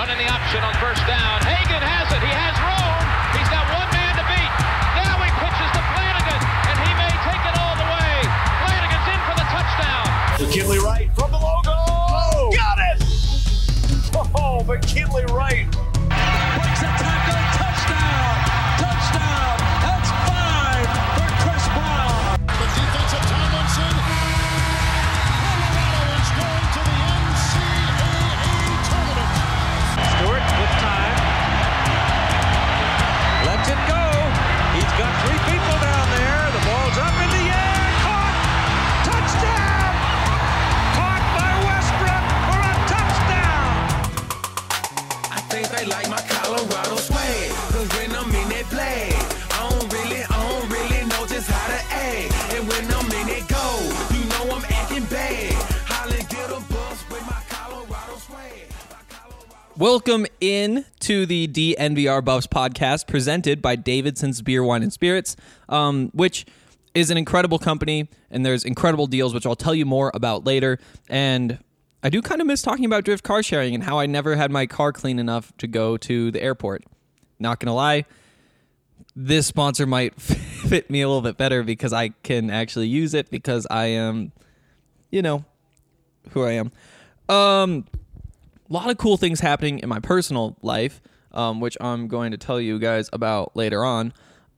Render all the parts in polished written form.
Running the option on first down. Hagan has it. He has room. He's got one man to beat. Now he pitches to Flanagan, and he may take it all the way. Flanagan's in for the touchdown. McKinley Wright from the logo. Oh, got it! Oh, McKinley Wright. Breaks a tackle. Touchdown. Touchdown. That's 5 for Chris Brown. The defensive Tomlinson. Colorado is going to the NCAA tournament. Stewart with time. Lets it go. He's got 3 people down there. The ball's up in the air. Caught. Touchdown. Caught by Westbrook for a touchdown. I think they like my Colorado swag, 'cause when I'm in that play, I don't really know just how to act. And when I'm in it go, you know I'm acting bad. Holland get a bus with my Colorado swag. Welcome in to the DNVR Buffs podcast presented by Davidson's Beer, Wine, and Spirits, which is an incredible company, and there's incredible deals, which I'll tell you more about later. And I do kind of miss talking about Drift car sharing and how I never had my car clean enough to go to the airport. Not going to lie, this sponsor might fit me a little bit better because I can actually use it because I am, you know, who I am. A lot of cool things happening in my personal life, which I'm going to tell you guys about later on.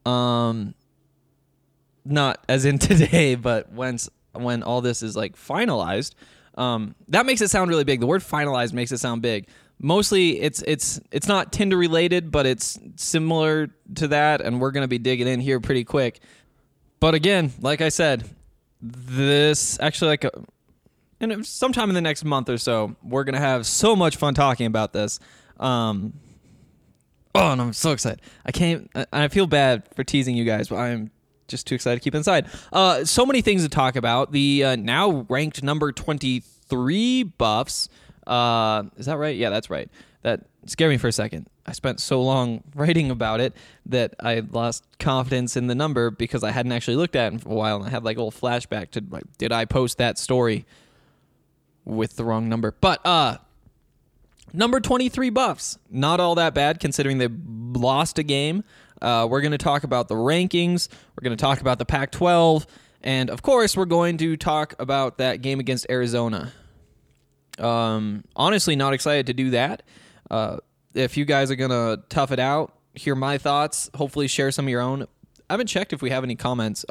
Not as in today, but when all this is like finalized. That makes it sound really big. The word finalized makes it sound big. Mostly it's not Tinder related, but it's similar to that, and we're going to be digging in here pretty quick. But again, like I said, this actually and sometime in the next month or so, we're going to have so much fun talking about this. And I'm so excited. I feel bad for teasing you guys, but I'm just too excited to keep inside. So many things to talk about. The now ranked number 23 Buffs. Is that right? Yeah, that's right. That scared me for a second. I spent so long writing about it that I lost confidence in the number because I hadn't actually looked at it for a while, and I had like a little flashback to like, did I post that story with the wrong number? But number 23 Buffs, not all that bad considering they lost a game. We're going to talk about the rankings. We're going to talk about the Pac-12. And, of course, we're going to talk about that game against Arizona. Honestly, not excited to do that. If you guys are going to tough it out, hear my thoughts, hopefully share some of your own. I haven't checked if we have any comments.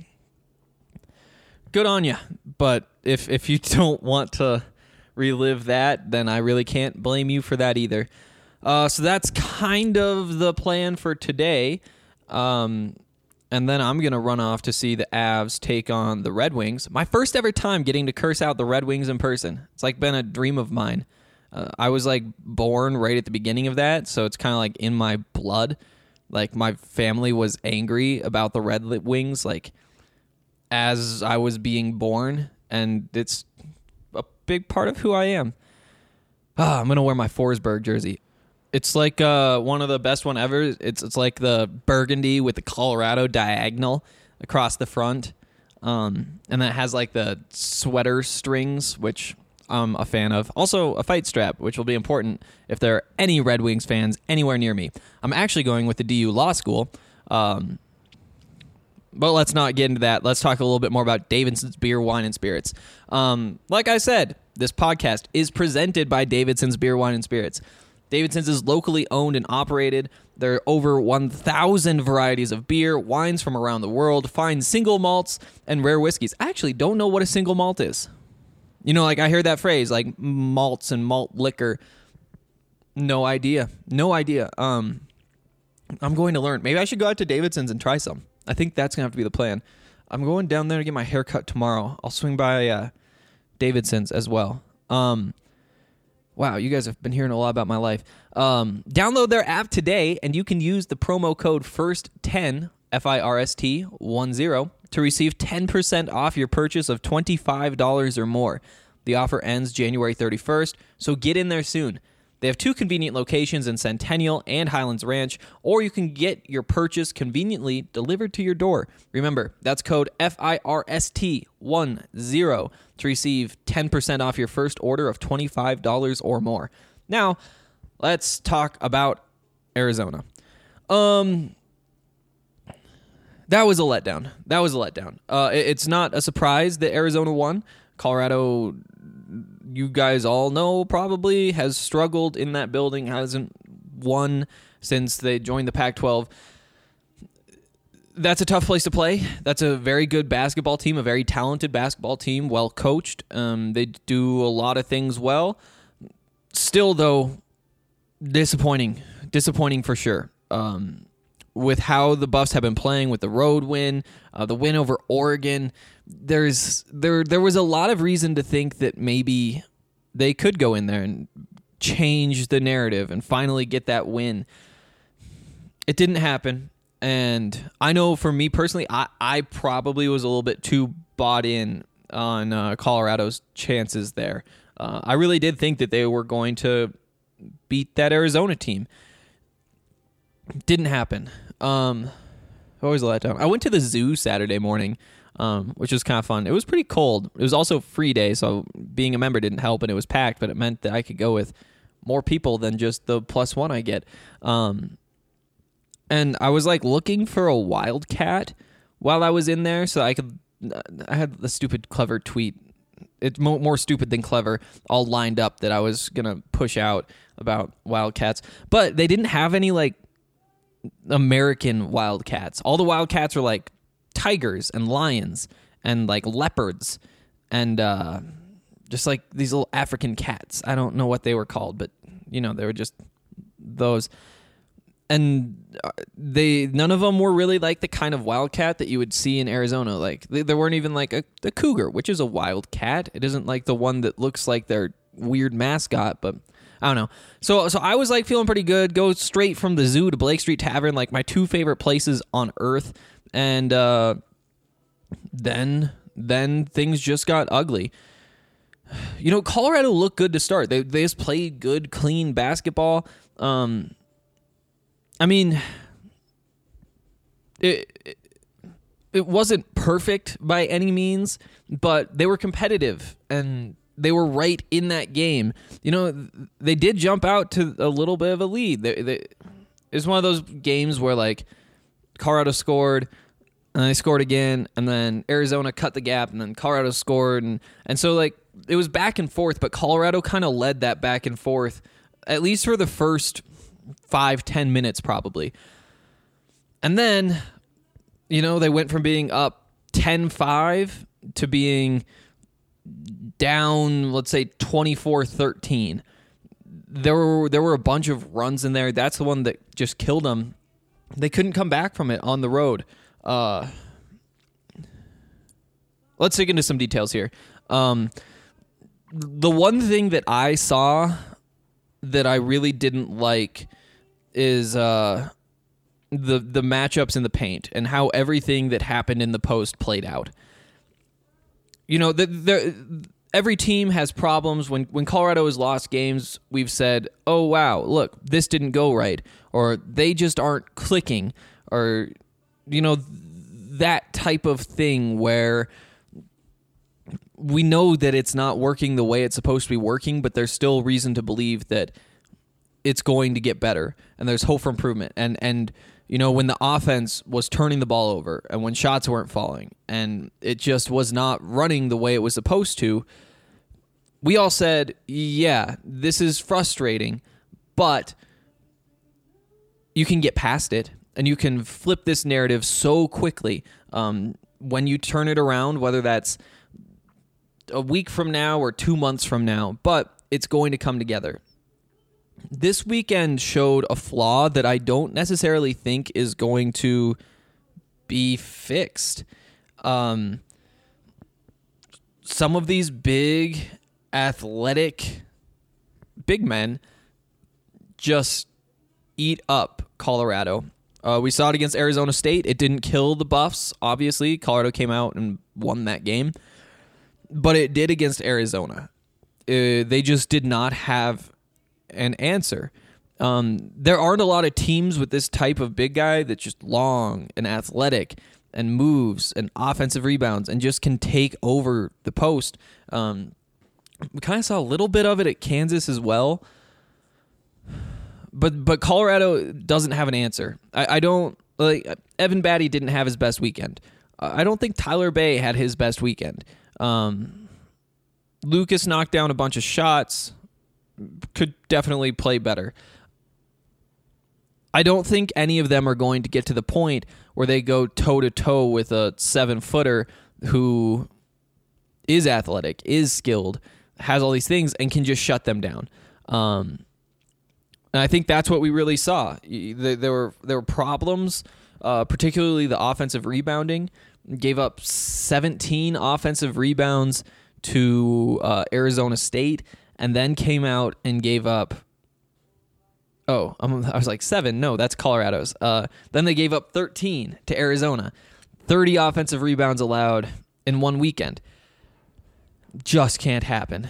Good on you. But if you don't want to relive that, then I really can't blame you for that either. So that's kind of the plan for today. And then I'm going to run off to see the Avs take on the Red Wings. My first ever time getting to curse out the Red Wings in person. It's like been a dream of mine. I was like born right at the beginning of that, so it's kind of like in my blood. Like my family was angry about the Red Wings like as I was being born, and it's a big part of who I am. I'm going to wear my Forsberg jersey. It's like one of the best one ever. It's like the burgundy with the Colorado diagonal across the front. And that has like the sweater strings, which I'm a fan of. Also a fight strap, which will be important if there are any Red Wings fans anywhere near me. I'm actually going with the DU Law School. But let's not get into that. Let's talk a little bit more about Davidson's Beer, Wine, and Spirits. Like I said, this podcast is presented by Davidson's Beer, Wine, and Spirits. Davidson's is locally owned and operated. There are over 1,000 varieties of beer, wines from around the world, fine single malts, and rare whiskeys. I actually don't know what a single malt is. You know, like I hear that phrase, like malts and malt liquor. No idea. I'm going to learn. Maybe I should go out to Davidson's and try some. I think that's going to have to be the plan. I'm going down there to get my hair cut tomorrow. I'll swing by Davidson's as well. Wow, you guys have been hearing a lot about my life. Download their app today, and you can use the promo code FIRST10, FIRST10, to receive 10% off your purchase of $25 or more. The offer ends January 31st, so get in there soon. They have 2 convenient locations in Centennial and Highlands Ranch, or you can get your purchase conveniently delivered to your door. Remember, that's code FIRST10 to receive 10% off your first order of $25 or more. Now, let's talk about Arizona. That was a letdown. It's not a surprise that Arizona won. Colorado, you guys all know, probably has struggled in that building, hasn't won since they joined the Pac-12. That's a tough place to play. That's a very good basketball team, a very talented basketball team, well coached. They do a lot of things well. Still, though, disappointing for sure. With how the Buffs have been playing, with the road win, the win over Oregon, there was a lot of reason to think that maybe they could go in there and change the narrative and finally get that win. It didn't happen, and I know for me personally, I probably was a little bit too bought in on Colorado's chances there. I really did think that they were going to beat that Arizona team. Didn't happen. Always a letdown. I went to the zoo Saturday morning, which was kind of fun. It was pretty cold. It was also free day, so being a member didn't help, and it was packed, but it meant that I could go with more people than just the +1 I get. And I was like looking for a wildcat while I was in there, so I had the stupid clever tweet. It's more stupid than clever, all lined up that I was gonna push out about wildcats, but they didn't have any like American wildcats. All the wildcats are like tigers and lions and like leopards and just like these little African cats. I don't know what they were called, but they were just those. And none of them were really like the kind of wildcat that you would see in Arizona. Like there weren't even like a cougar, which is a wildcat. It isn't like the one that looks like their weird mascot, but I don't know. So I was like feeling pretty good. Go straight from the zoo to Blake Street Tavern, like my two favorite places on earth. And then things just got ugly. Colorado looked good to start. They just played good, clean basketball. I mean, it wasn't perfect by any means, but they were competitive and they were right in that game. They did jump out to a little bit of a lead. It's one of those games where like Colorado scored and they scored again, and then Arizona cut the gap, and then Colorado scored, and so like it was back and forth, but Colorado kind of led that back and forth at least for the first 5-10 minutes probably. And then, they went from being up 10-5 to being down, let's say 24-13. There were a bunch of runs in there. That's the one that just killed them. They couldn't come back from it on the road. Let's dig into some details here. The one thing that I saw that I really didn't like is the matchups in the paint and how everything that happened in the post played out. Every team has problems. When Colorado has lost games, we've said, oh, wow, look, this didn't go right, or they just aren't clicking, or, that type of thing where we know that it's not working the way it's supposed to be working, but there's still reason to believe that it's going to get better, and there's hope for improvement. And when the offense was turning the ball over and when shots weren't falling and it just was not running the way it was supposed to, we all said, yeah, this is frustrating, but you can get past it and you can flip this narrative so quickly. When you turn it around, whether that's a week from now or 2 months from now, but it's going to come together. This weekend showed a flaw that I don't necessarily think is going to be fixed. Some of these big, athletic, big men just eat up Colorado. We saw it against Arizona State. It didn't kill the Buffs, obviously. Colorado came out and won that game. But it did against Arizona. They just did not have an answer. There aren't a lot of teams with this type of big guy that's just long and athletic and moves and offensive rebounds and just can take over the post. We kind of saw a little bit of it at Kansas as well. But Colorado doesn't have an answer. I don't like Evan Batty didn't have his best weekend. I don't think Tyler Bay had his best weekend. Lucas knocked down a bunch of shots. Could definitely play better. I don't think any of them are going to get to the point where they go toe-to-toe with a 7-footer who is athletic, is skilled, has all these things, and can just shut them down. And I think that's what we really saw. There were problems, particularly the offensive rebounding. Gave up 17 offensive rebounds to Arizona State, and then came out and gave up. I was like 7. No, that's Colorado's. Then they gave up 13 to Arizona. 30 offensive rebounds allowed in one weekend. Just can't happen.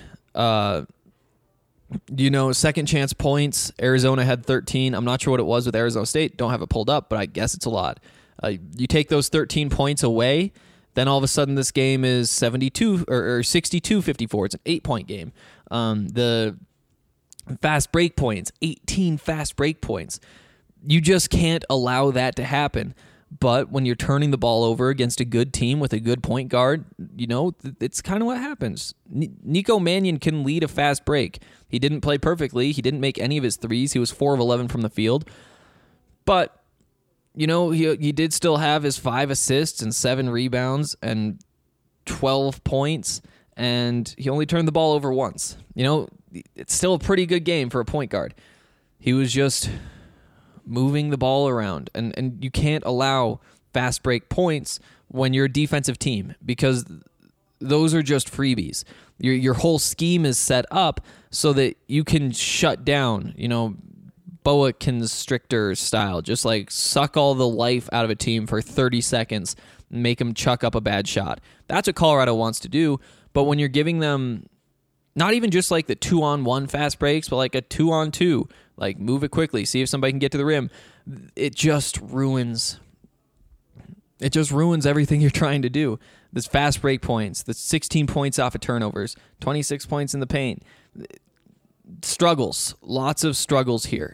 Second chance points. Arizona had 13. I'm not sure what it was with Arizona State. Don't have it pulled up, but I guess it's a lot. You take those 13 points away, then all of a sudden this game is 72 or 62-54. It's an 8-point game. The fast break points, 18 fast break points. You just can't allow that to happen. But when you're turning the ball over against a good team with a good point guard, it's kind of what happens. Nico Mannion can lead a fast break. He didn't play perfectly. He didn't make any of his threes. He was 4 of 11 from the field. But, he did still have his 5 assists and 7 rebounds and 12 points, and he only turned the ball over once. It's still a pretty good game for a point guard. He was just moving the ball around, and you can't allow fast break points when you're a defensive team, because those are just freebies. Your whole scheme is set up so that you can shut down, boa constrictor style, just like suck all the life out of a team for 30 seconds and make them chuck up a bad shot. That's what Colorado wants to do. But when you're giving them not even just like the 2-on-1 fast breaks, but like a 2-on-2, like move it quickly, see if somebody can get to the rim, it just ruins everything you're trying to do. This fast break points, the 16 points off of turnovers, 26 points in the paint. Struggles, lots of struggles here.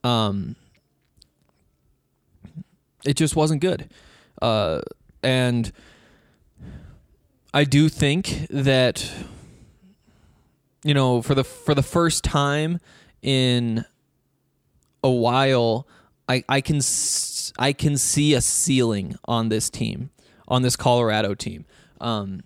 It just wasn't good. And I do think that, for the first time in a while, I can see a ceiling on this team, on this Colorado team. I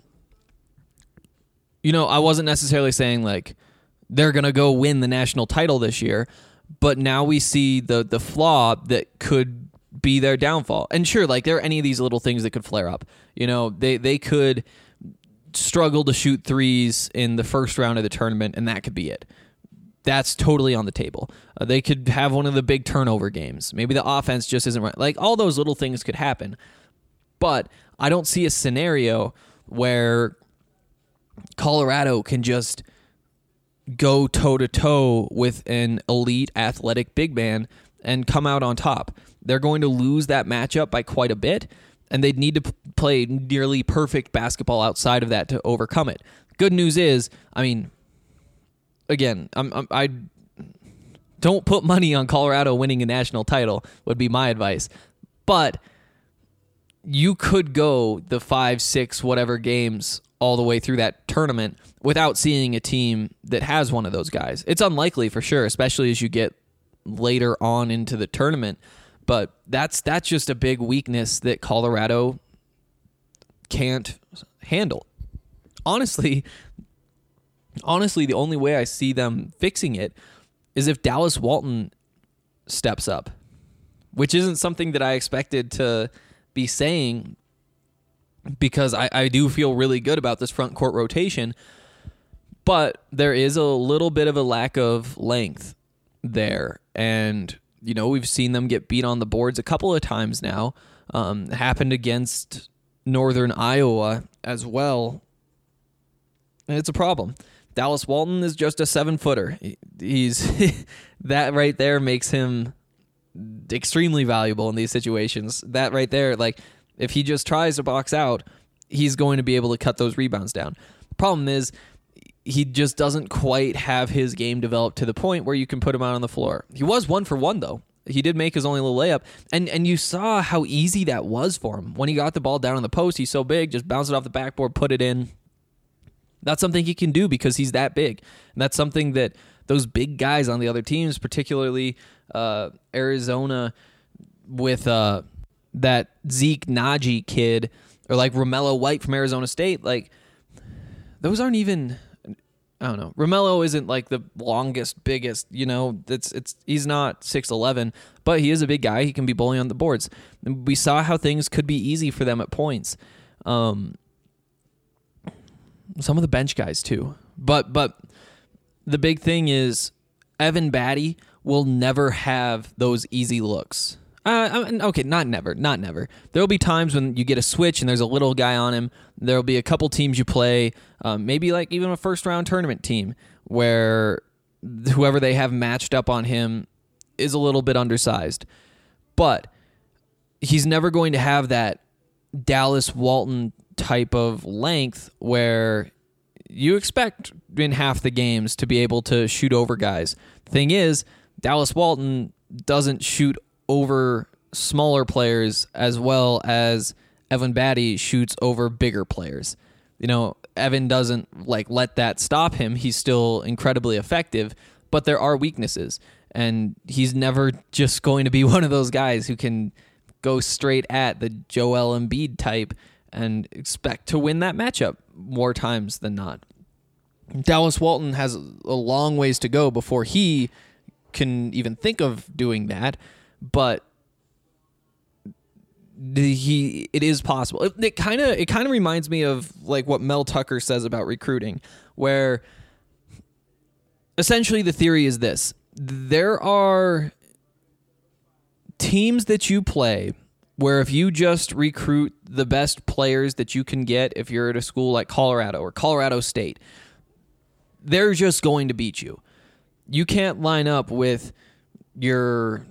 wasn't necessarily saying like they're gonna go win the national title this year, but now we see the flaw that could be their downfall. And sure, like there are any of these little things that could flare up. They could struggle to shoot threes in the first round of the tournament, and that could be it. That's totally on the table. They could have one of the big turnover games. Maybe the offense just isn't right. Like all those little things could happen. But I don't see a scenario where Colorado can just go toe-to-toe with an elite athletic big man and come out on top. They're going to lose that matchup by quite a bit, and they'd need to play nearly perfect basketball outside of that to overcome it. Good news is, again, I don't put money on Colorado winning a national title would be my advice. But you could go the 5, 6, whatever games all the way through that tournament without seeing a team that has one of those guys. It's unlikely for sure, especially as you get later on into the tournament. But that's just a big weakness that Colorado can't handle. Honestly, the only way I see them fixing it is if Dallas Walton steps up, which isn't something that I expected to be saying, because I do feel really good about this front court rotation, but there is a little bit of a lack of length there. And, we've seen them get beat on the boards a couple of times now. Happened against Northern Iowa as well. And it's a problem. Dallas Walton is just a 7-footer. He's that right there makes him extremely valuable in these situations. That right there, like if he just tries to box out, he's going to be able to cut those rebounds down. The problem is he just doesn't quite have his game developed to the point where you can put him out on the floor. He was 1 for 1 though. He did make his only little layup, and you saw how easy that was for him. When he got the ball down on the post, he's so big, just bounce it off the backboard, put it in. That's something he can do because he's that big. And that's something that those big guys on the other teams, particularly Arizona with that Zeke Naji kid, or like Romello White from Arizona State, like those aren't even... I don't know. Romello isn't like the longest, biggest, he's not 6'11", but he is a big guy. He can be bullying on the boards. And we saw how things could be easy for them at points. Some of the bench guys too. But the big thing is Evan Batty will never have those easy looks. Okay, not never. There will be times when you get a switch and there's a little guy on him. There will be a couple teams you play, maybe like even a first-round tournament team, where whoever they have matched up on him is a little bit undersized. But he's never going to have that Dallas Walton type of length where you expect in half the games to be able to shoot over guys. The thing is, Dallas Walton doesn't shoot over smaller players as well as Evan Batty shoots over bigger players. Evan doesn't let that stop him. He's still incredibly effective, but there are weaknesses, and he's never just going to be one of those guys who can go straight at the Joel Embiid type and expect to win that matchup more times than not. Dallas Walton has a long ways to go before he can even think of doing that. But it is possible. It kind of reminds me of like what Mel Tucker says about recruiting, where essentially the theory is this: there are teams that you play where if you just recruit the best players that you can get, if you're at a school like Colorado or Colorado State, they're just going to beat you. You can't line up with your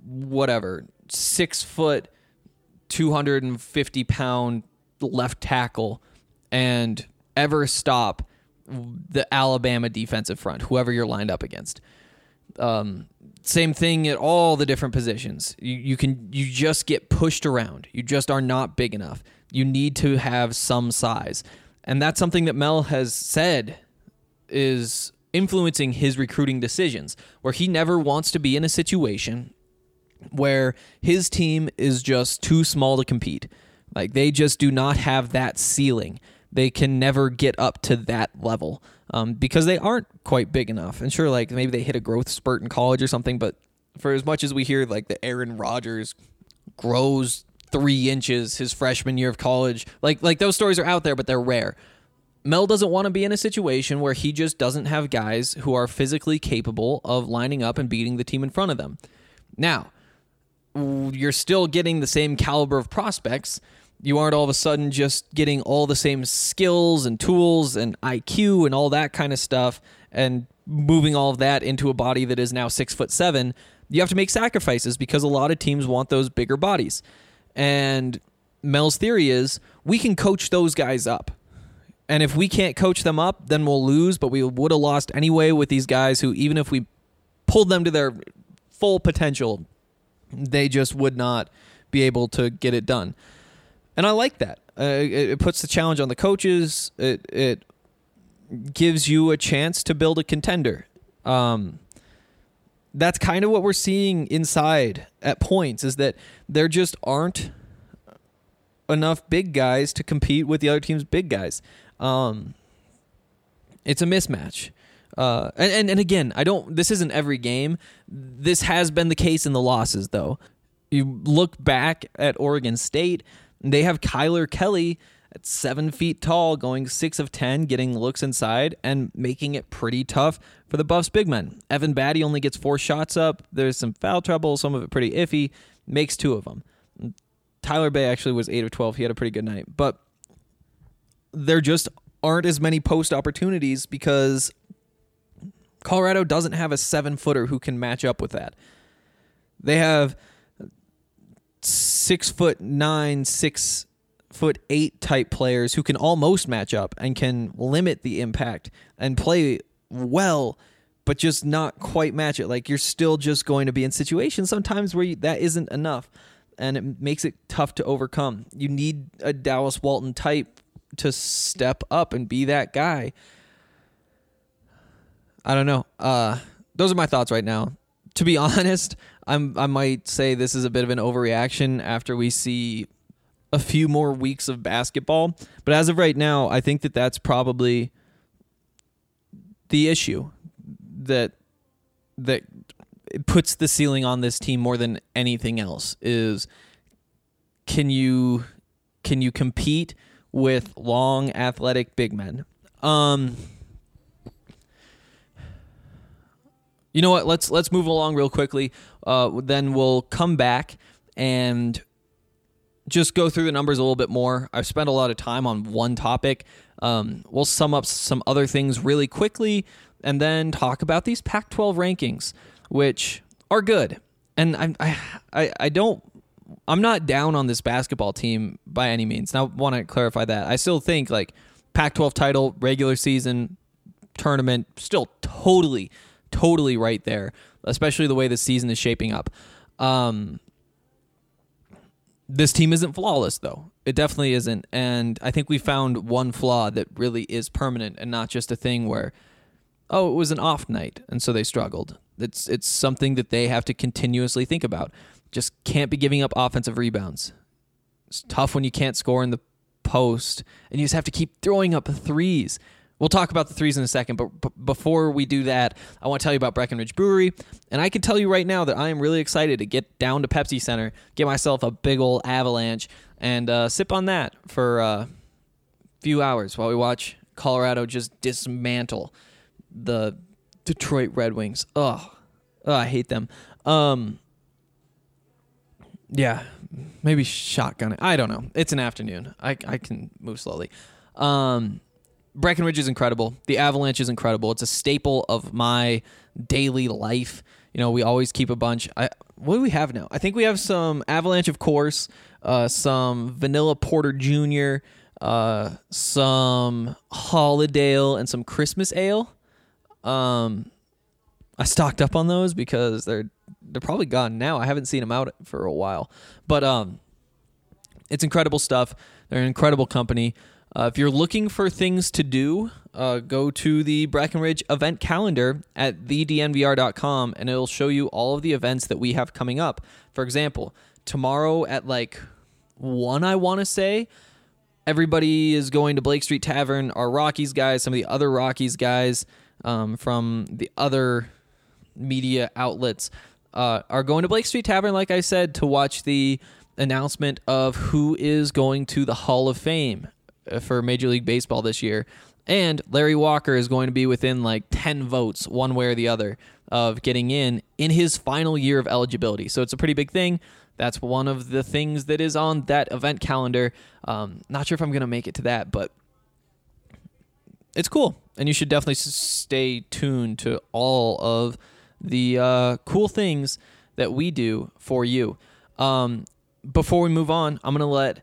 6 foot, 250 pound left tackle and ever stop the Alabama defensive front, whoever you're lined up against. Same thing at all the different positions. You just get pushed around. You just are not big enough. You need to have some size. And that's something that Mel has said is influencing his recruiting decisions, where he never wants to be in a situation where his team is just too small to compete. Like, they just do not have that ceiling. They can never get up to that level because they aren't quite big enough. And sure, like maybe they hit a growth spurt in college or something, but for as much as we hear like the Aaron Rodgers grows 3 inches his freshman year of college, like those stories are out there, but they're rare. Mel doesn't want to be in a situation where he just doesn't have guys who are physically capable of lining up and beating the team in front of them. Now, you're still getting the same caliber of prospects. You aren't all of a sudden just getting all the same skills and tools and IQ and all that kind of stuff and moving all of that into a body that is now 6'7". You have to make sacrifices because a lot of teams want those bigger bodies. And Mel's theory is we can coach those guys up. And if we can't coach them up, then we'll lose, but we would have lost anyway with these guys who, even if we pulled them to their full potential, they just would not be able to get it done. And I like that. It puts the challenge on the coaches. It gives you a chance to build a contender. That's kind of what we're seeing inside at points, is that there just aren't enough big guys to compete with the other team's big guys. It's a mismatch. And again, this isn't every game. This has been the case in the losses, though. You look back at Oregon State, they have Kyler Kelly at 7 feet tall, going 6 of 10, getting looks inside and making it pretty tough for the Buffs big men. Evan Batty only gets 4 shots up. There's some foul trouble, some of it pretty iffy. Makes 2 of them. Tyler Bay actually was 8 of 12. He had a pretty good night. But there just aren't as many post opportunities because Colorado doesn't have a 7-footer who can match up with that. They have 6'9", 6 6'8" type players who can almost match up and can limit the impact and play well, but just not quite match it. Like, you're still just going to be in situations sometimes where that isn't enough, and it makes it tough to overcome. You need a Dallas Walton type to step up and be that guy. I don't know. Those are my thoughts right now. To be honest, I might say this is a bit of an overreaction after we see a few more weeks of basketball. But as of right now, I think that that's probably the issue that puts the ceiling on this team more than anything else is, can you compete with long, athletic big men? You know what? Let's move along real quickly. Then we'll come back and just go through the numbers a little bit more. I've spent a lot of time on one topic. We'll sum up some other things really quickly, and then talk about these Pac-12 rankings, which are good. And I'm not down on this basketball team by any means. Now, I want to clarify that. I still think like Pac-12 title, regular season, tournament, still totally right there, especially the way the season is shaping up. This team isn't flawless, though. It definitely isn't. And I think we found one flaw that really is permanent and not just a thing where, oh, it was an off night, and so they struggled. It's something that they have to continuously think about. Just can't be giving up offensive rebounds. It's tough when you can't score in the post, and you just have to keep throwing up threes. We'll talk about the threes in a second, but before we do that, I want to tell you about Breckenridge Brewery. And I can tell you right now that I am really excited to get down to Pepsi Center, get myself a big old avalanche, and sip on that for a few hours while we watch Colorado just dismantle the Detroit Red Wings. I hate them. Yeah, maybe shotgun it. I don't know. It's an afternoon. I can move slowly. Breckenridge is incredible. The Avalanche is incredible. It's a staple of my daily life. You know, we always keep a bunch. What do we have now? I think we have some Avalanche, of course, some Vanilla Porter Jr., some Holidale, and some Christmas Ale. I stocked up on those because they're probably gone now. I haven't seen them out for a while. But it's incredible stuff. They're an incredible company. If you're looking for things to do, go to the Breckenridge event calendar at thednvr.com, and it'll show you all of the events that we have coming up. For example, tomorrow at 1, I want to say, everybody is going to Blake Street Tavern. Our Rockies guys, some of the other Rockies guys from the other media outlets are going to Blake Street Tavern, like I said, to watch the announcement of who is going to the Hall of Fame for Major League Baseball this year. And Larry Walker is going to be within 10 votes, one way or the other, of getting in his final year of eligibility. So it's a pretty big thing. That's one of the things that is on that event calendar. Not sure if I'm going to make it to that, but it's cool. And you should definitely stay tuned to all of the cool things that we do for you. Before we move on, I'm going to let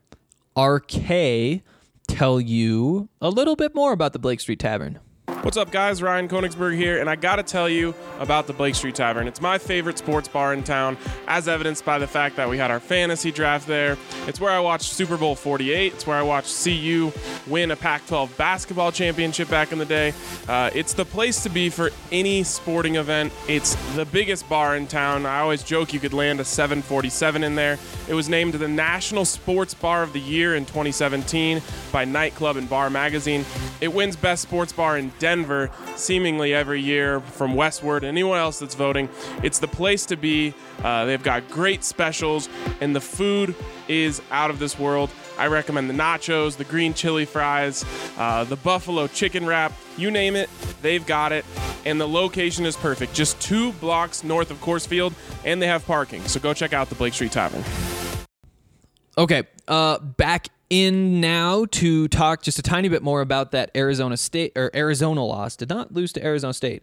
RK tell you a little bit more about the Blake Street Tavern. What's up, guys? Ryan Koenigsberg here, and I gotta tell you about the Blake Street Tavern. It's my favorite sports bar in town, as evidenced by the fact that we had our fantasy draft there. It's where I watched Super Bowl 48. It's where I watched CU win a Pac-12 basketball championship back in the day. It's the place to be for any sporting event. It's the biggest bar in town. I always joke you could land a 747 in there. It was named the National Sports Bar of the Year in 2017 by Nightclub and Bar Magazine. It wins Best Sports Bar in Denver seemingly every year from Westward and anyone else that's voting. It's the place to be. They've got great specials, and the food is out of this world. I recommend the nachos, the green chili fries, the buffalo chicken wrap, you name it, they've got it. And the location is perfect, just 2 blocks north of Coors Field, and they have parking. So go check out the Blake Street Tavern. Okay, back in now to talk just a tiny bit more about that Arizona loss. Did not lose to Arizona State.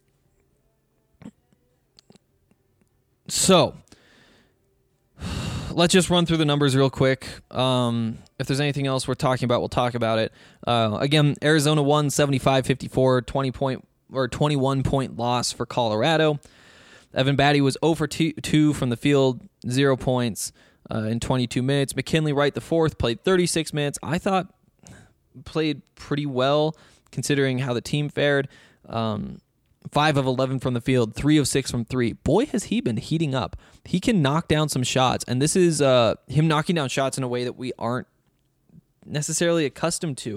So let's just run through the numbers real quick. If there's anything else we're talking about, we'll talk about it. Again, Arizona won 75-54, 21-point loss for Colorado. Evan Batty was 0 for 2 from the field, 0 points in 22 minutes. McKinley Wright IV played 36 minutes. I thought played pretty well considering how the team fared. 5 of 11 from the field, 3 of 6 from 3. Boy, has he been heating up. He can knock down some shots, and this is him knocking down shots in a way that we aren't necessarily accustomed to.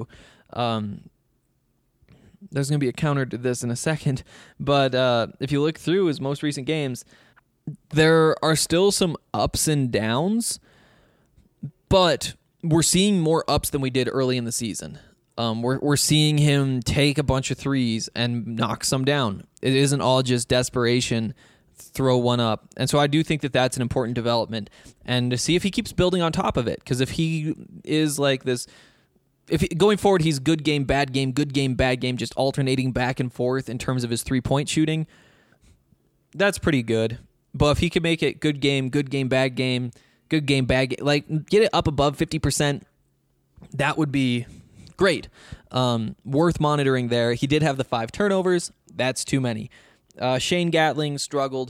There's going to be a counter to this in a second, but if you look through his most recent games, there are still some ups and downs, but we're seeing more ups than we did early in the season. We're seeing him take a bunch of threes and knock some down. It isn't all just desperation, throw one up. And so I do think that that's an important development. And to see if he keeps building on top of it, because if he is like this, going forward he's good game, bad game, good game, bad game, just alternating back and forth in terms of his 3-point shooting, that's pretty good. But if he could make it good game, bad game, good game, bad game, like get it up above 50%, that would be great. Worth monitoring there. He did have the 5 turnovers. That's too many. Shane Gatling struggled.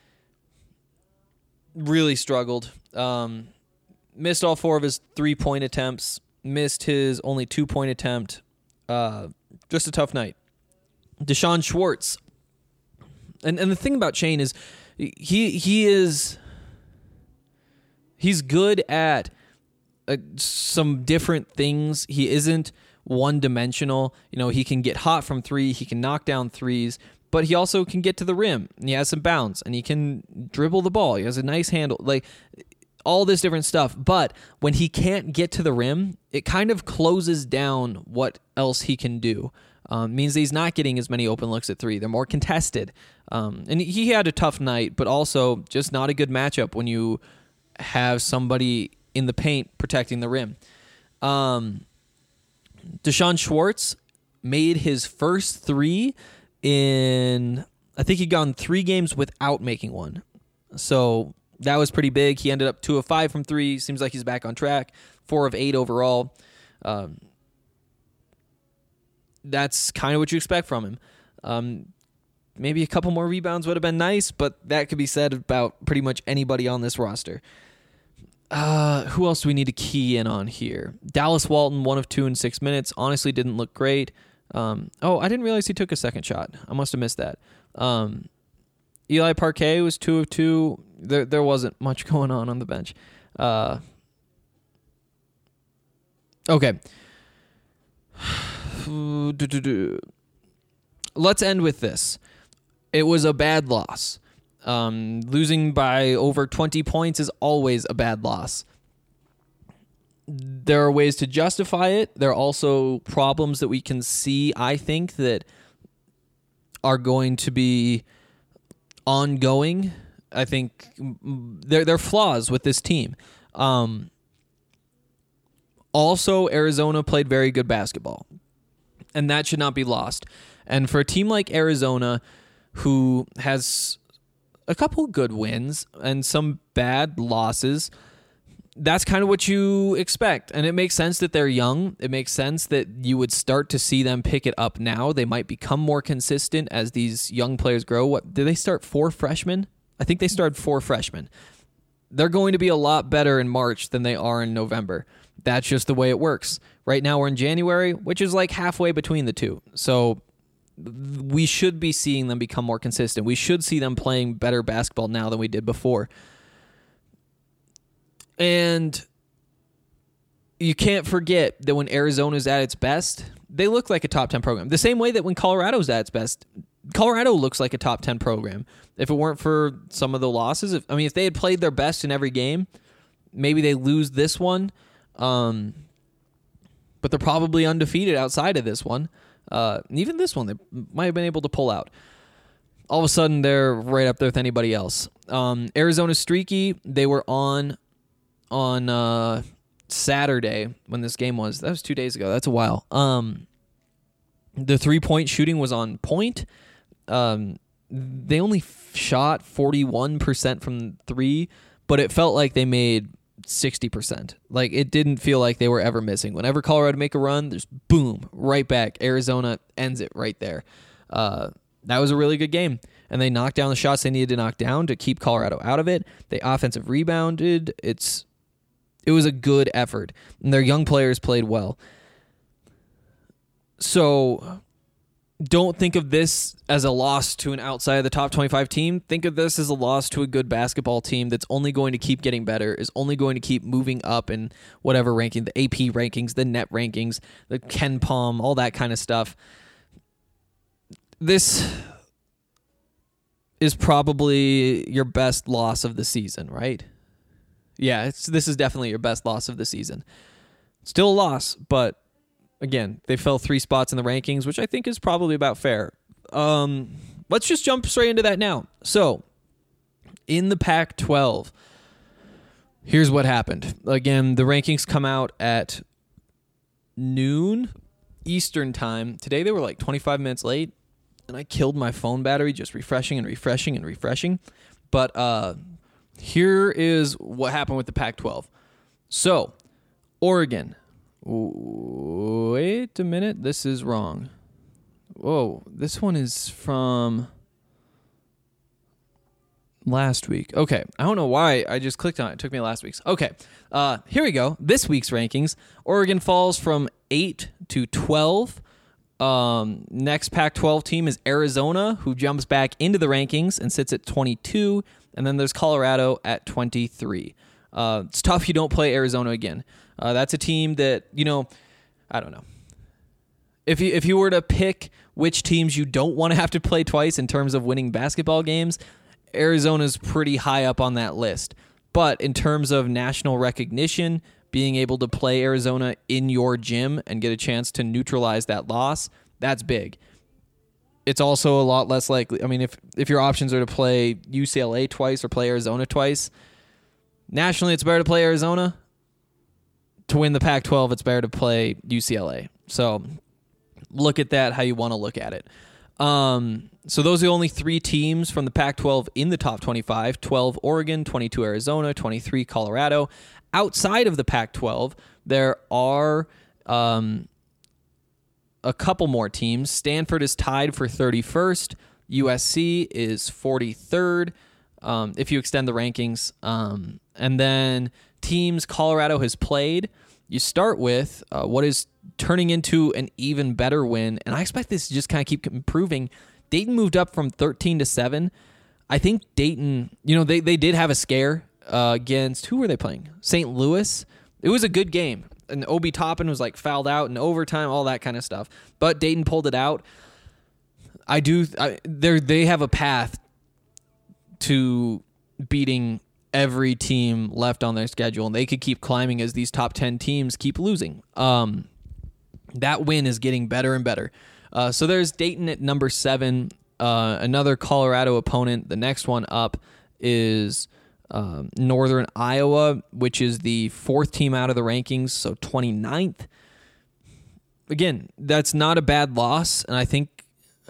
Really struggled. Missed all 4 of his 3-point attempts. Missed his only 2-point attempt. Just a tough night. Deshaun Schwartz. And the thing about Shane is he's good at some different things. He isn't one-dimensional. He can get hot from 3. He can knock down threes, but he also can get to the rim. And he has some bounce, and he can dribble the ball. He has a nice handle. Like, all this different stuff. But when he can't get to the rim, it kind of closes down what else he can do. Means that he's not getting as many open looks at 3. They're more contested. And he had a tough night, but also just not a good matchup when you have somebody in the paint protecting the rim. Deshaun Schwartz made his first 3 in, I think he'd gone 3 games without making one. So that was pretty big. He ended up 2 of 5 from 3. Seems like he's back on track. 4 of 8 overall. That's kind of what you expect from him. Maybe a couple more rebounds would have been nice, but that could be said about pretty much anybody on this roster. Who else do we need to key in on here? Dallas Walton, 1 of 2 in 6 minutes. Honestly, didn't look great. I didn't realize he took a second shot. I must have missed that. Eli Parquet was 2 of 2. There wasn't much going on the bench. Okay. Let's end with this. It was a bad loss. Losing by over 20 points is always a bad loss. There are ways to justify it. There are also problems that we can see, I think, that are going to be ongoing. I think there are flaws with this team. Also, Arizona played very good basketball, and that should not be lost. And for a team like Arizona, who has a couple good wins and some bad losses, that's kind of what you expect. And it makes sense that they're young. It makes sense that you would start to see them pick it up now. They might become more consistent as these young players grow. What did they start 4 freshmen? I think they started 4 freshmen. They're going to be a lot better in March than they are in November. That's just the way it works. Right now we're in January, which is like halfway between the two. So we should be seeing them become more consistent. We should see them playing better basketball now than we did before. And you can't forget that when Arizona's at its best, they look like a top 10 program. The same way that when Colorado's at its best, Colorado looks like a top 10 program. If it weren't for some of the losses, if they had played their best in every game, maybe they lose this one. But they're probably undefeated outside of this one. Even this one, they might have been able to pull out. All of a sudden, they're right up there with anybody else. Arizona's streaky. They were on Saturday when this game was. That was 2 days ago. That's a while. The 3-point shooting was on point. They only shot 41% from 3, but it felt like they made 60%. Like, it didn't feel like they were ever missing. Whenever Colorado make a run, there's boom, right back. Arizona ends it right there. That was a really good game. And they knocked down the shots they needed to knock down to keep Colorado out of it. They offensive rebounded. It was a good effort. And their young players played well. So don't think of this as a loss to an outside of the top 25 team. Think of this as a loss to a good basketball team that's only going to keep getting better, is only going to keep moving up in whatever ranking, the AP rankings, the net rankings, the Ken Palm, all that kind of stuff. This is probably your best loss of the season, right? Yeah, this is definitely your best loss of the season. Still a loss, but again, they fell 3 spots in the rankings, which I think is probably about fair. Let's just jump straight into that now. So, in the Pac-12, here's what happened. Again, the rankings come out at noon Eastern time. Today they were like 25 minutes late, and I killed my phone battery just refreshing and refreshing and refreshing. But here is what happened with the Pac-12. So, Oregon. Wait a minute. This is wrong. Whoa. This one is from last week. Okay. I don't know why I just clicked on it. It took me last week's. Okay. Here we go. This week's rankings. Oregon falls from 8 to 12. Next Pac-12 team is Arizona, who jumps back into the rankings and sits at 22. And then there's Colorado at 23. It's tough you don't play Arizona again. That's a team that, I don't know. If you were to pick which teams you don't want to have to play twice in terms of winning basketball games, Arizona's pretty high up on that list. But in terms of national recognition, being able to play Arizona in your gym and get a chance to neutralize that loss, that's big. It's also a lot less likely. I mean, if your options are to play UCLA twice or play Arizona twice, nationally it's better to play Arizona. To win the Pac-12, it's better to play UCLA. So look at that how you want to look at it. So those are the only 3 teams from the Pac-12 in the top 25. 12 Oregon, 22 Arizona, 23 Colorado. Outside of the Pac-12, there are a couple more teams. Stanford is tied for 31st. USC is 43rd, if you extend the rankings. And then teams Colorado has played, you start with what is turning into an even better win, and I expect this to just kind of keep improving. Dayton moved up from 13 to 7. I think Dayton, they did have a scare against, who were they playing? St. Louis. It was a good game, and Obi Toppin was like fouled out in overtime, all that kind of stuff. But Dayton pulled it out. They have a path to beating every team left on their schedule, and they could keep climbing as these top 10 teams keep losing. That win is getting better and better. So there's Dayton at number 7, another Colorado opponent. The next one up is Northern Iowa, which is the 4th team out of the rankings, so 29th. Again, that's not a bad loss, and I think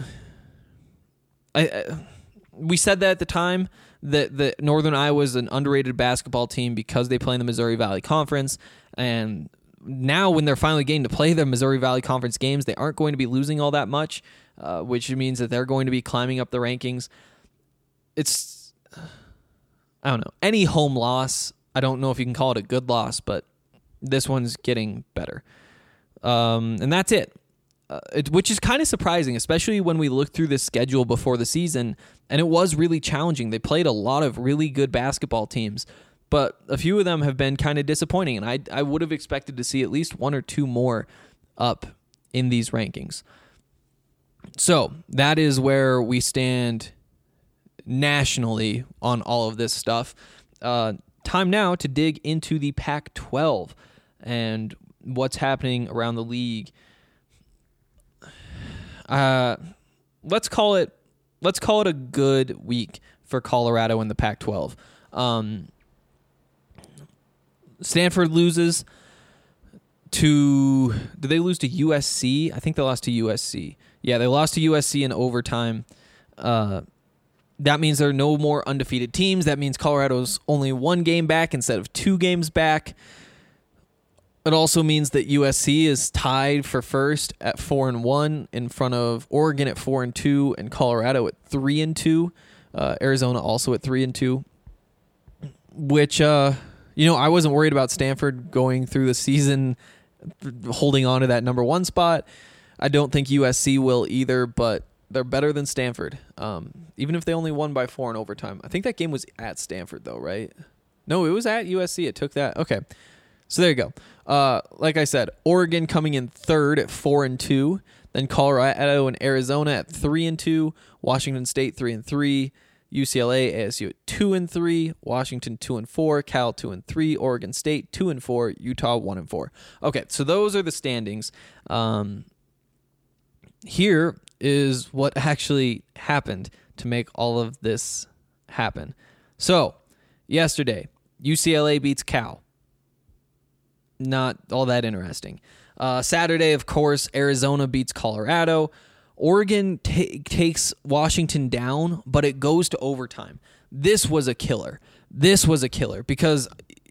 we said that at the time, that Northern Iowa is an underrated basketball team because they play in the Missouri Valley Conference, and now when they're finally getting to play their Missouri Valley Conference games, they aren't going to be losing all that much, which means that they're going to be climbing up the rankings. It's, I don't know, any home loss, I don't know if you can call it a good loss, but this one's getting better. And that's it. Which is kind of surprising, especially when we look through the schedule before the season, and it was really challenging. They played a lot of really good basketball teams, but a few of them have been kind of disappointing, and I would have expected to see at least 1 or 2 more up in these rankings. So that is where we stand nationally on all of this stuff. Time now to dig into the Pac-12 and what's happening around the league. Let's call it a good week for Colorado in the Pac-12. Stanford loses to, did they lose to USC? I think they lost to USC. Yeah, they lost to USC in overtime. That means there are no more undefeated teams. That means Colorado's only 1 game back instead of 2 games back. It also means that USC is tied for first at 4-1 in front of Oregon at 4-2 and Colorado at 3-2. Arizona also at 3-2. Which, I wasn't worried about Stanford going through the season holding on to that number 1 spot. I don't think USC will either, but they're better than Stanford. Even if they only won by 4 in overtime. I think that game was at Stanford, though, right? No, it was at USC. It took that. Okay. So there you go. Like I said, Oregon coming in 3rd at 4-2. Then Colorado and Arizona at 3-2. Washington State 3-3. UCLA, ASU at 2-3. Washington 2-4. Cal 2-3. Oregon State 2-4. Utah 1-4. Okay, so those are the standings. Here is what actually happened to make all of this happen. So, yesterday, UCLA beats Cal. Not all that interesting. Saturday, of course, Arizona beats Colorado. Oregon takes Washington down, but it goes to overtime. This was a killer. Because,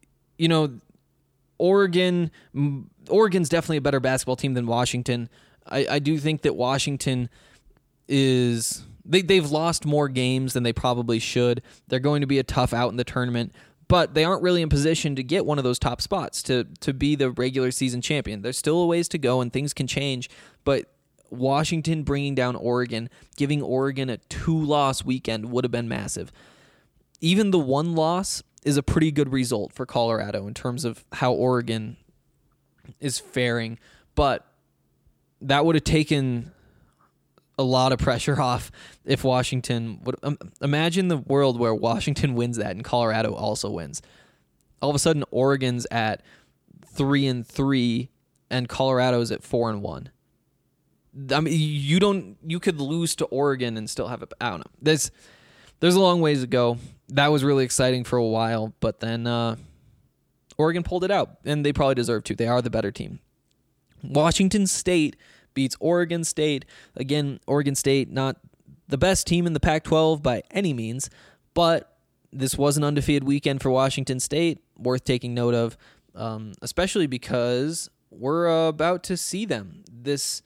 Oregon's definitely a better basketball team than Washington. I do think that Washington is... They've lost more games than they probably should. They're going to be a tough out in the tournament, but they aren't really in position to get one of those top spots to be the regular season champion. There's still a ways to go and things can change, but Washington bringing down Oregon, giving Oregon a 2-loss weekend would have been massive. Even the 1 loss is a pretty good result for Colorado in terms of how Oregon is faring, but that would have taken a lot of pressure off if Washington would imagine the world where Washington wins that and Colorado also wins. All of a sudden, Oregon's at 3-3 and Colorado's at 4-1. I mean, you could lose to Oregon and still have I don't know. There's a long ways to go. That was really exciting for a while, but then Oregon pulled it out, and they probably deserve to. They are the better team. Washington State beats Oregon State. Again, Oregon State, not the best team in the Pac-12 by any means, but this was an undefeated weekend for Washington State, worth taking note of, especially because we're about to see them this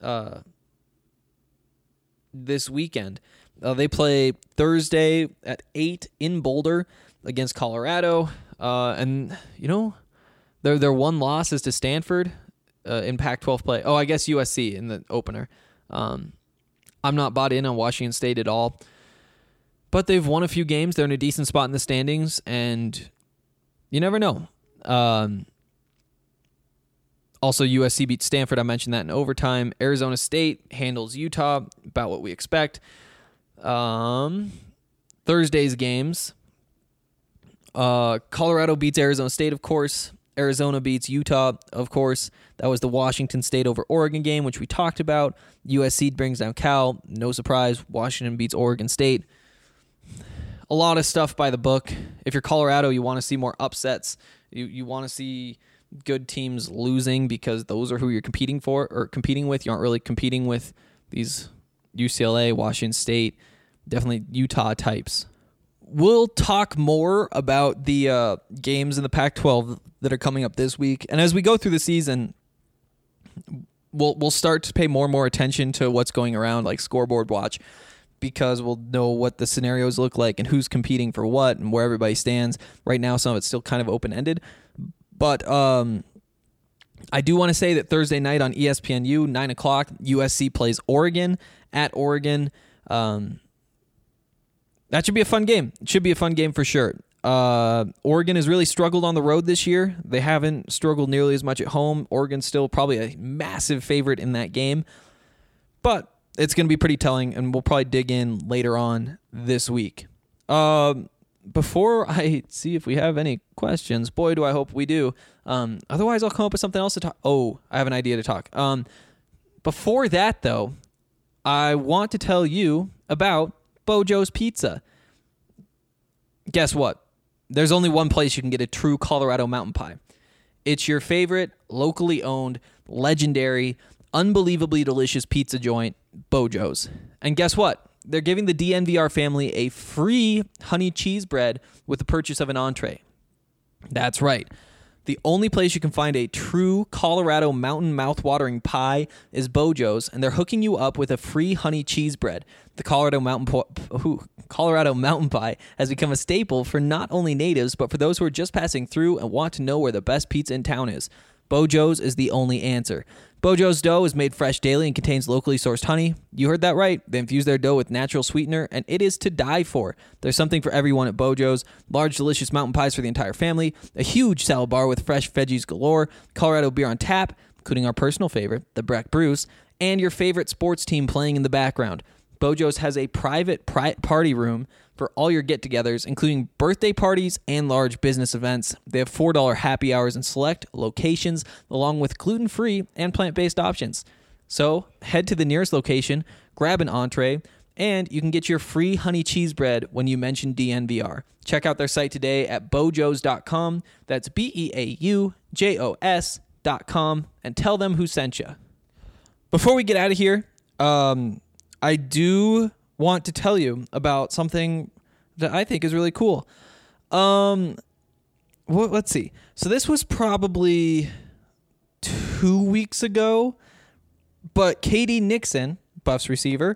weekend. They play Thursday at 8 in Boulder against Colorado, and their 1 loss is to Stanford. In Pac-12 play. Oh, I guess USC in the opener. I'm not bought in on Washington State at all. But they've won a few games. They're in a decent spot in the standings, and you never know. Also, USC beat Stanford. I mentioned that in overtime. Arizona State handles Utah, about what we expect. Thursday's games. Colorado beats Arizona State, of course. Arizona beats Utah, of course. That was the Washington State over Oregon game, which we talked about. USC brings down Cal. No surprise. Washington beats Oregon State. A lot of stuff by the book. If you're Colorado, you want to see more upsets. You want to see good teams losing because those are who you're competing for or competing with. You aren't really competing with these UCLA, Washington State, definitely Utah types. We'll talk more about the games in the Pac-12 that are coming up this week. And as we go through the season, we'll start to pay more and more attention to what's going around, like scoreboard watch, because we'll know what the scenarios look like and who's competing for what and where everybody stands. Right now, some of it's still kind of open-ended. But I do want to say that Thursday night on ESPNU, 9 o'clock, USC plays Oregon at Oregon. That should be a fun game. It should be a fun game for sure. Oregon has really struggled on the road this year. They haven't struggled nearly as much at home. Oregon's still probably a massive favorite in that game. But it's going to be pretty telling, and we'll probably dig in later on this week. Before I see if we have any questions, boy, do I hope we do. Otherwise, I'll come up with something else to talk. Oh, I have an idea to talk. Before that, though, I want to tell you about Bojo's Pizza. Guess what? There's only one place you can get a true Colorado mountain pie. It's your favorite, locally owned, legendary, unbelievably delicious pizza joint, Bojo's. And guess what? they're giving the DNVR family a free honey cheese bread with the purchase of an entree. That's right. The only place you can find a true Colorado mountain mouth-watering pie is Bojo's, and they're hooking you up with a free honey cheese bread. The Colorado mountain pie has become a staple for not only natives, but for those who are just passing through and want to know where the best pizza in town is. Bojo's is the only answer. Bojo's dough is made fresh daily and contains locally sourced honey. You heard that right. They infuse their dough with natural sweetener, and it is to die for. There's something for everyone at Bojo's. Large, delicious mountain pies for the entire family, a huge salad bar with fresh veggies galore, Colorado beer on tap, including our personal favorite, the Breck Bruce, and your favorite sports team playing in the background. Bojo's has a private party room for all your get-togethers, including birthday parties and large business events. They have $4 happy hours in select locations, along with gluten-free and plant-based options. So head to the nearest location, grab an entree, and you can get your free honey cheese bread when you mention DNVR. Check out their site today at bojos.com. That's BEAUJOS.com, and tell them who sent you. Before we get out of here, I do want to tell you about something that I think is really cool. Let's see. So this was probably 2 weeks ago, but Katie Nixon, Buffs receiver,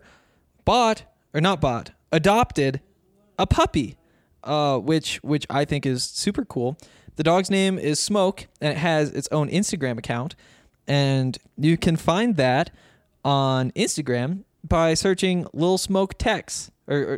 adopted a puppy, which I think is super cool. The dog's name is Smoke, and it has its own Instagram account, and you can find that on Instagram by searching Lil Smoke Tex, or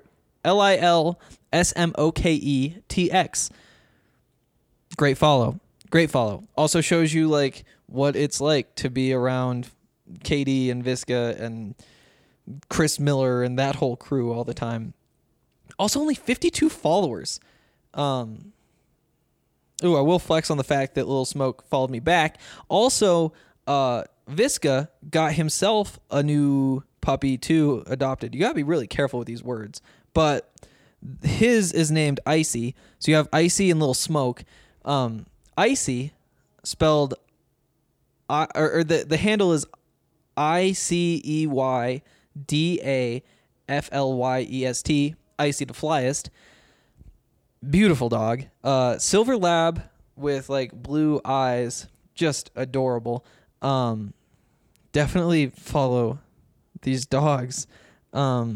LILSMOKETX. Great follow. Also shows you like what it's like to be around Katie and Visca and Chris Miller and that whole crew all the time. Also only 52 followers. I will flex on the fact that Lil Smoke followed me back. Also, Visca got himself a new puppy too adopted. You gotta be really careful with these words, but his is named Icy. So you have Icy and Little Smoke. Icy spelled the handle is ICEYDAFLYEST. Icy the Flyest. Beautiful dog. Silver lab with like blue eyes, just adorable. Definitely follow these dogs. I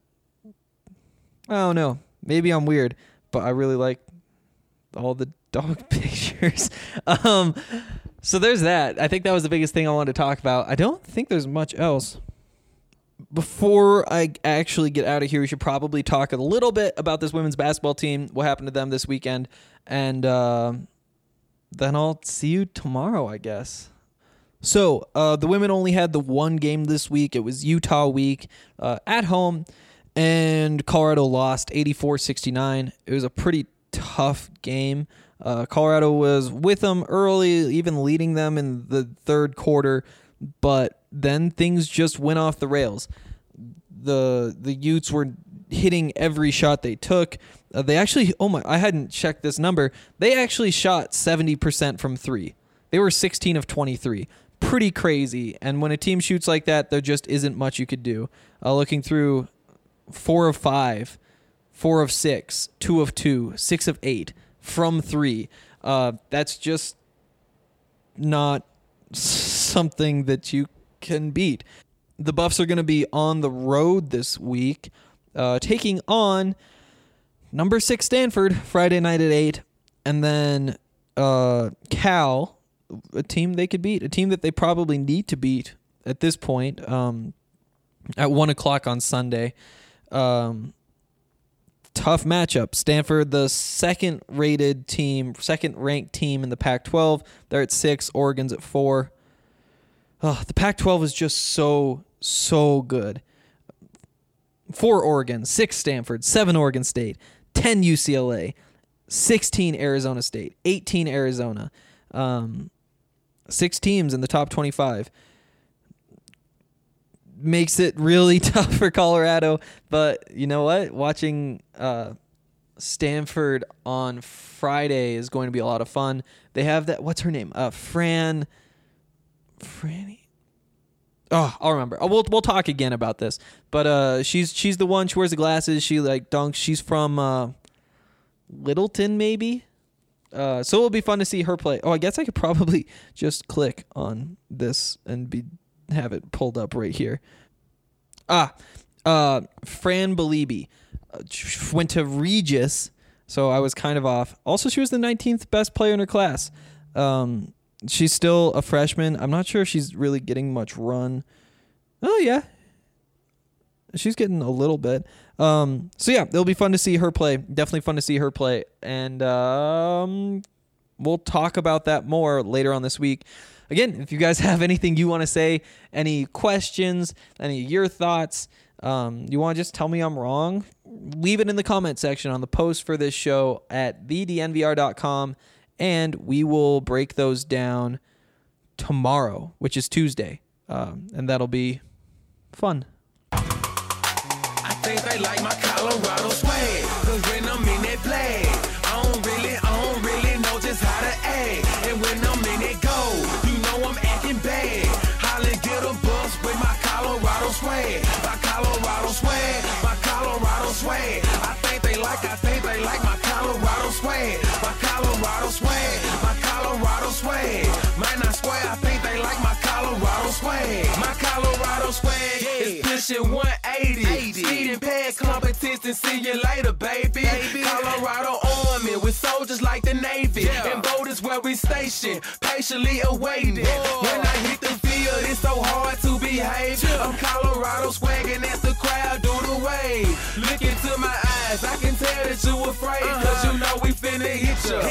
don't know. Maybe I'm weird, but I really like all the dog pictures. So there's that. I think that was the biggest thing I wanted to talk about. I don't think there's much else. Before I actually get out of here, we should probably talk a little bit about this women's basketball team, what happened to them this weekend, and then I'll see you tomorrow, I guess. So, the women only had the one game this week. It was Utah week at home, and Colorado lost 84-69. It was a pretty tough game. Colorado was with them early, even leading them in the third quarter, but then things just went off the rails. The Utes were hitting every shot they took. They actually, I hadn't checked this number. They actually shot 70% from three. They were 16 of 23. Pretty crazy. And when a team shoots like that, there just isn't much you could do. Looking through 4 of 5, 4 of 6, 2 of 2, 6 of 8 from 3. That's just not something that you can beat. The Buffs are going to be on the road this week, taking on number 6 Stanford Friday night at 8, and then Cal, a team they could beat, a team that they probably need to beat at this point, at 1 o'clock on Sunday. Tough matchup. Stanford, the second-ranked team in the Pac-12. They're at 6. Oregon's at 4. The Pac-12 is just so good. 4 Oregon, 6 Stanford, 7 Oregon State, 10 UCLA, 16 Arizona State, 18 Arizona. 6 teams in the top 25. Makes it really tough for Colorado, but you know what? Watching Stanford on Friday is going to be a lot of fun. They have that, what's her name? Franny? Oh, I'll remember. We'll talk again about this. But she's the one. She wears the glasses. She like dunks. She's from Littleton, maybe. So it'll be fun to see her play. Oh, I guess I could probably just click on this and have it pulled up right here. Fran Belibi went to Regis, so I was kind of off. Also, she was the 19th best player in her class. She's still a freshman. I'm not sure if she's really getting much run. Oh, yeah. She's getting a little bit. So, yeah, it'll be fun to see her play. Definitely fun to see her play. And we'll talk about that more later on this week. Again, if you guys have anything you want to say, any questions, any of your thoughts, you want to just tell me I'm wrong, leave it in the comment section on the post for this show at thednvr.com. And we will break those down tomorrow, which is Tuesday. And that'll be fun. I think they like my Colorado swag, cause when I'm in that flag, I don't really know just how to act. And when I'm in that goal, you know I'm acting bad. Holly get a bus with my Colorado swag. My Colorado swag, my Colorado swag. I think they like my Colorado swag. My Colorado swag, my Colorado swag. Man, I swear I think they like my Colorado swag. My Colorado swag is pushing 180. Speed and pad competition, see you later, baby. Colorado Army with soldiers like the Navy. And boat is where we station, patiently awaiting. When I hit the field, it's so hard to behave. I'm Colorado swagging as the crowd do the wave. Look into my eyes, I can tell that you afraid. Cause you know we finna hit ya.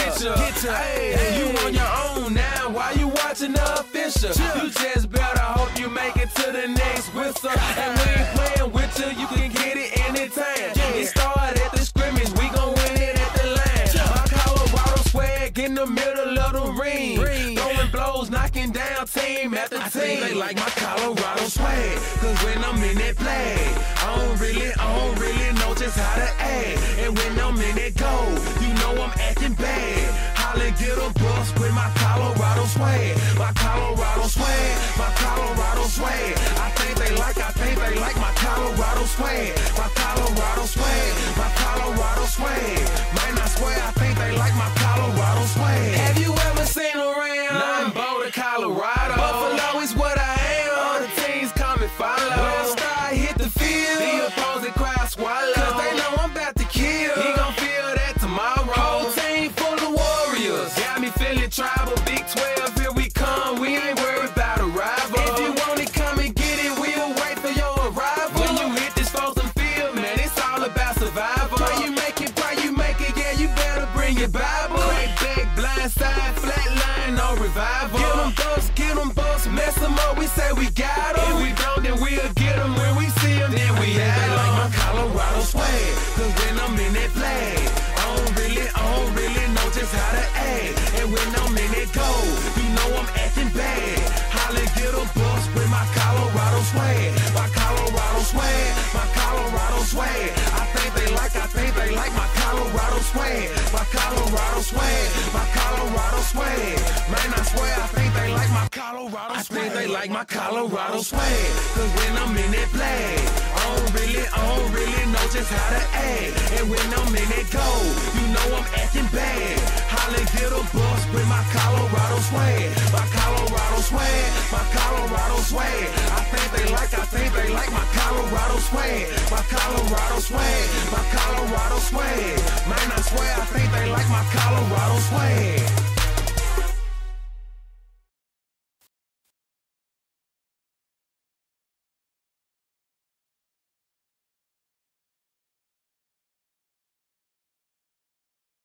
Hey, you on your own now, why you watching the official? You just better hope you make it to the next whistle. And we ain't playing with you can get it anytime. It started at the scrimmage, we gon' win it at the line. My Colorado swag in the middle of the ring. Throwing blows, knocking down team after team. I think they like my Colorado swag, cause when I'm in that flag, I don't really know just how to act. And when I'm in that goal, you know I'm acting bad. Holly get a bus with my Colorado swag. My Colorado swag, my Colorado swag. I think they like my Colorado swag. My Colorado swag, my Colorado swag. Man, I swear I think they like my Colorado swag. Have you ever seen around? Nah, I'm Boulder, Colorado. Buffalo is what I am. All the teams come and follow. When I start hit the field, the opposing crowd swallow. Cause they know I'm about to kill. He gon' feel that tomorrow. Whole team full of warriors. Got me feeling tribal. Big 12, here we come. We ain't worried about a rival. If you want it, come and get it. We'll wait for your arrival. When you hit this frozen field, man, it's all about survival. Pray you make it, yeah, you better bring your Bible. Crack back, blind side, flat line, no revival. Get them bucks, mess them up, we say we got them. If we don't, then we'll get them. When we see them, then we have them. Like my Colorado swag, cause when I'm in that flag, I don't really know just how to act. And when I'm in that goal, you know I'm acting bad. Holly get a bus with my Colorado swag. My Colorado swag, my Colorado swag. I think they like my Colorado swag. My Colorado swag, my Colorado swag. Man, I swear I think they like my Colorado swag. I think they like my Colorado swag. Cause when I'm in that flag, I don't really know just how to act. And when I'm in that goal, you know I'm acting bad. Holly get a bus with my Colorado swag. My Colorado swag, my Colorado swag. I think they like my Colorado swag. My Colorado swag, my Colorado swag. Man, I swear I think they like my Colorado swag.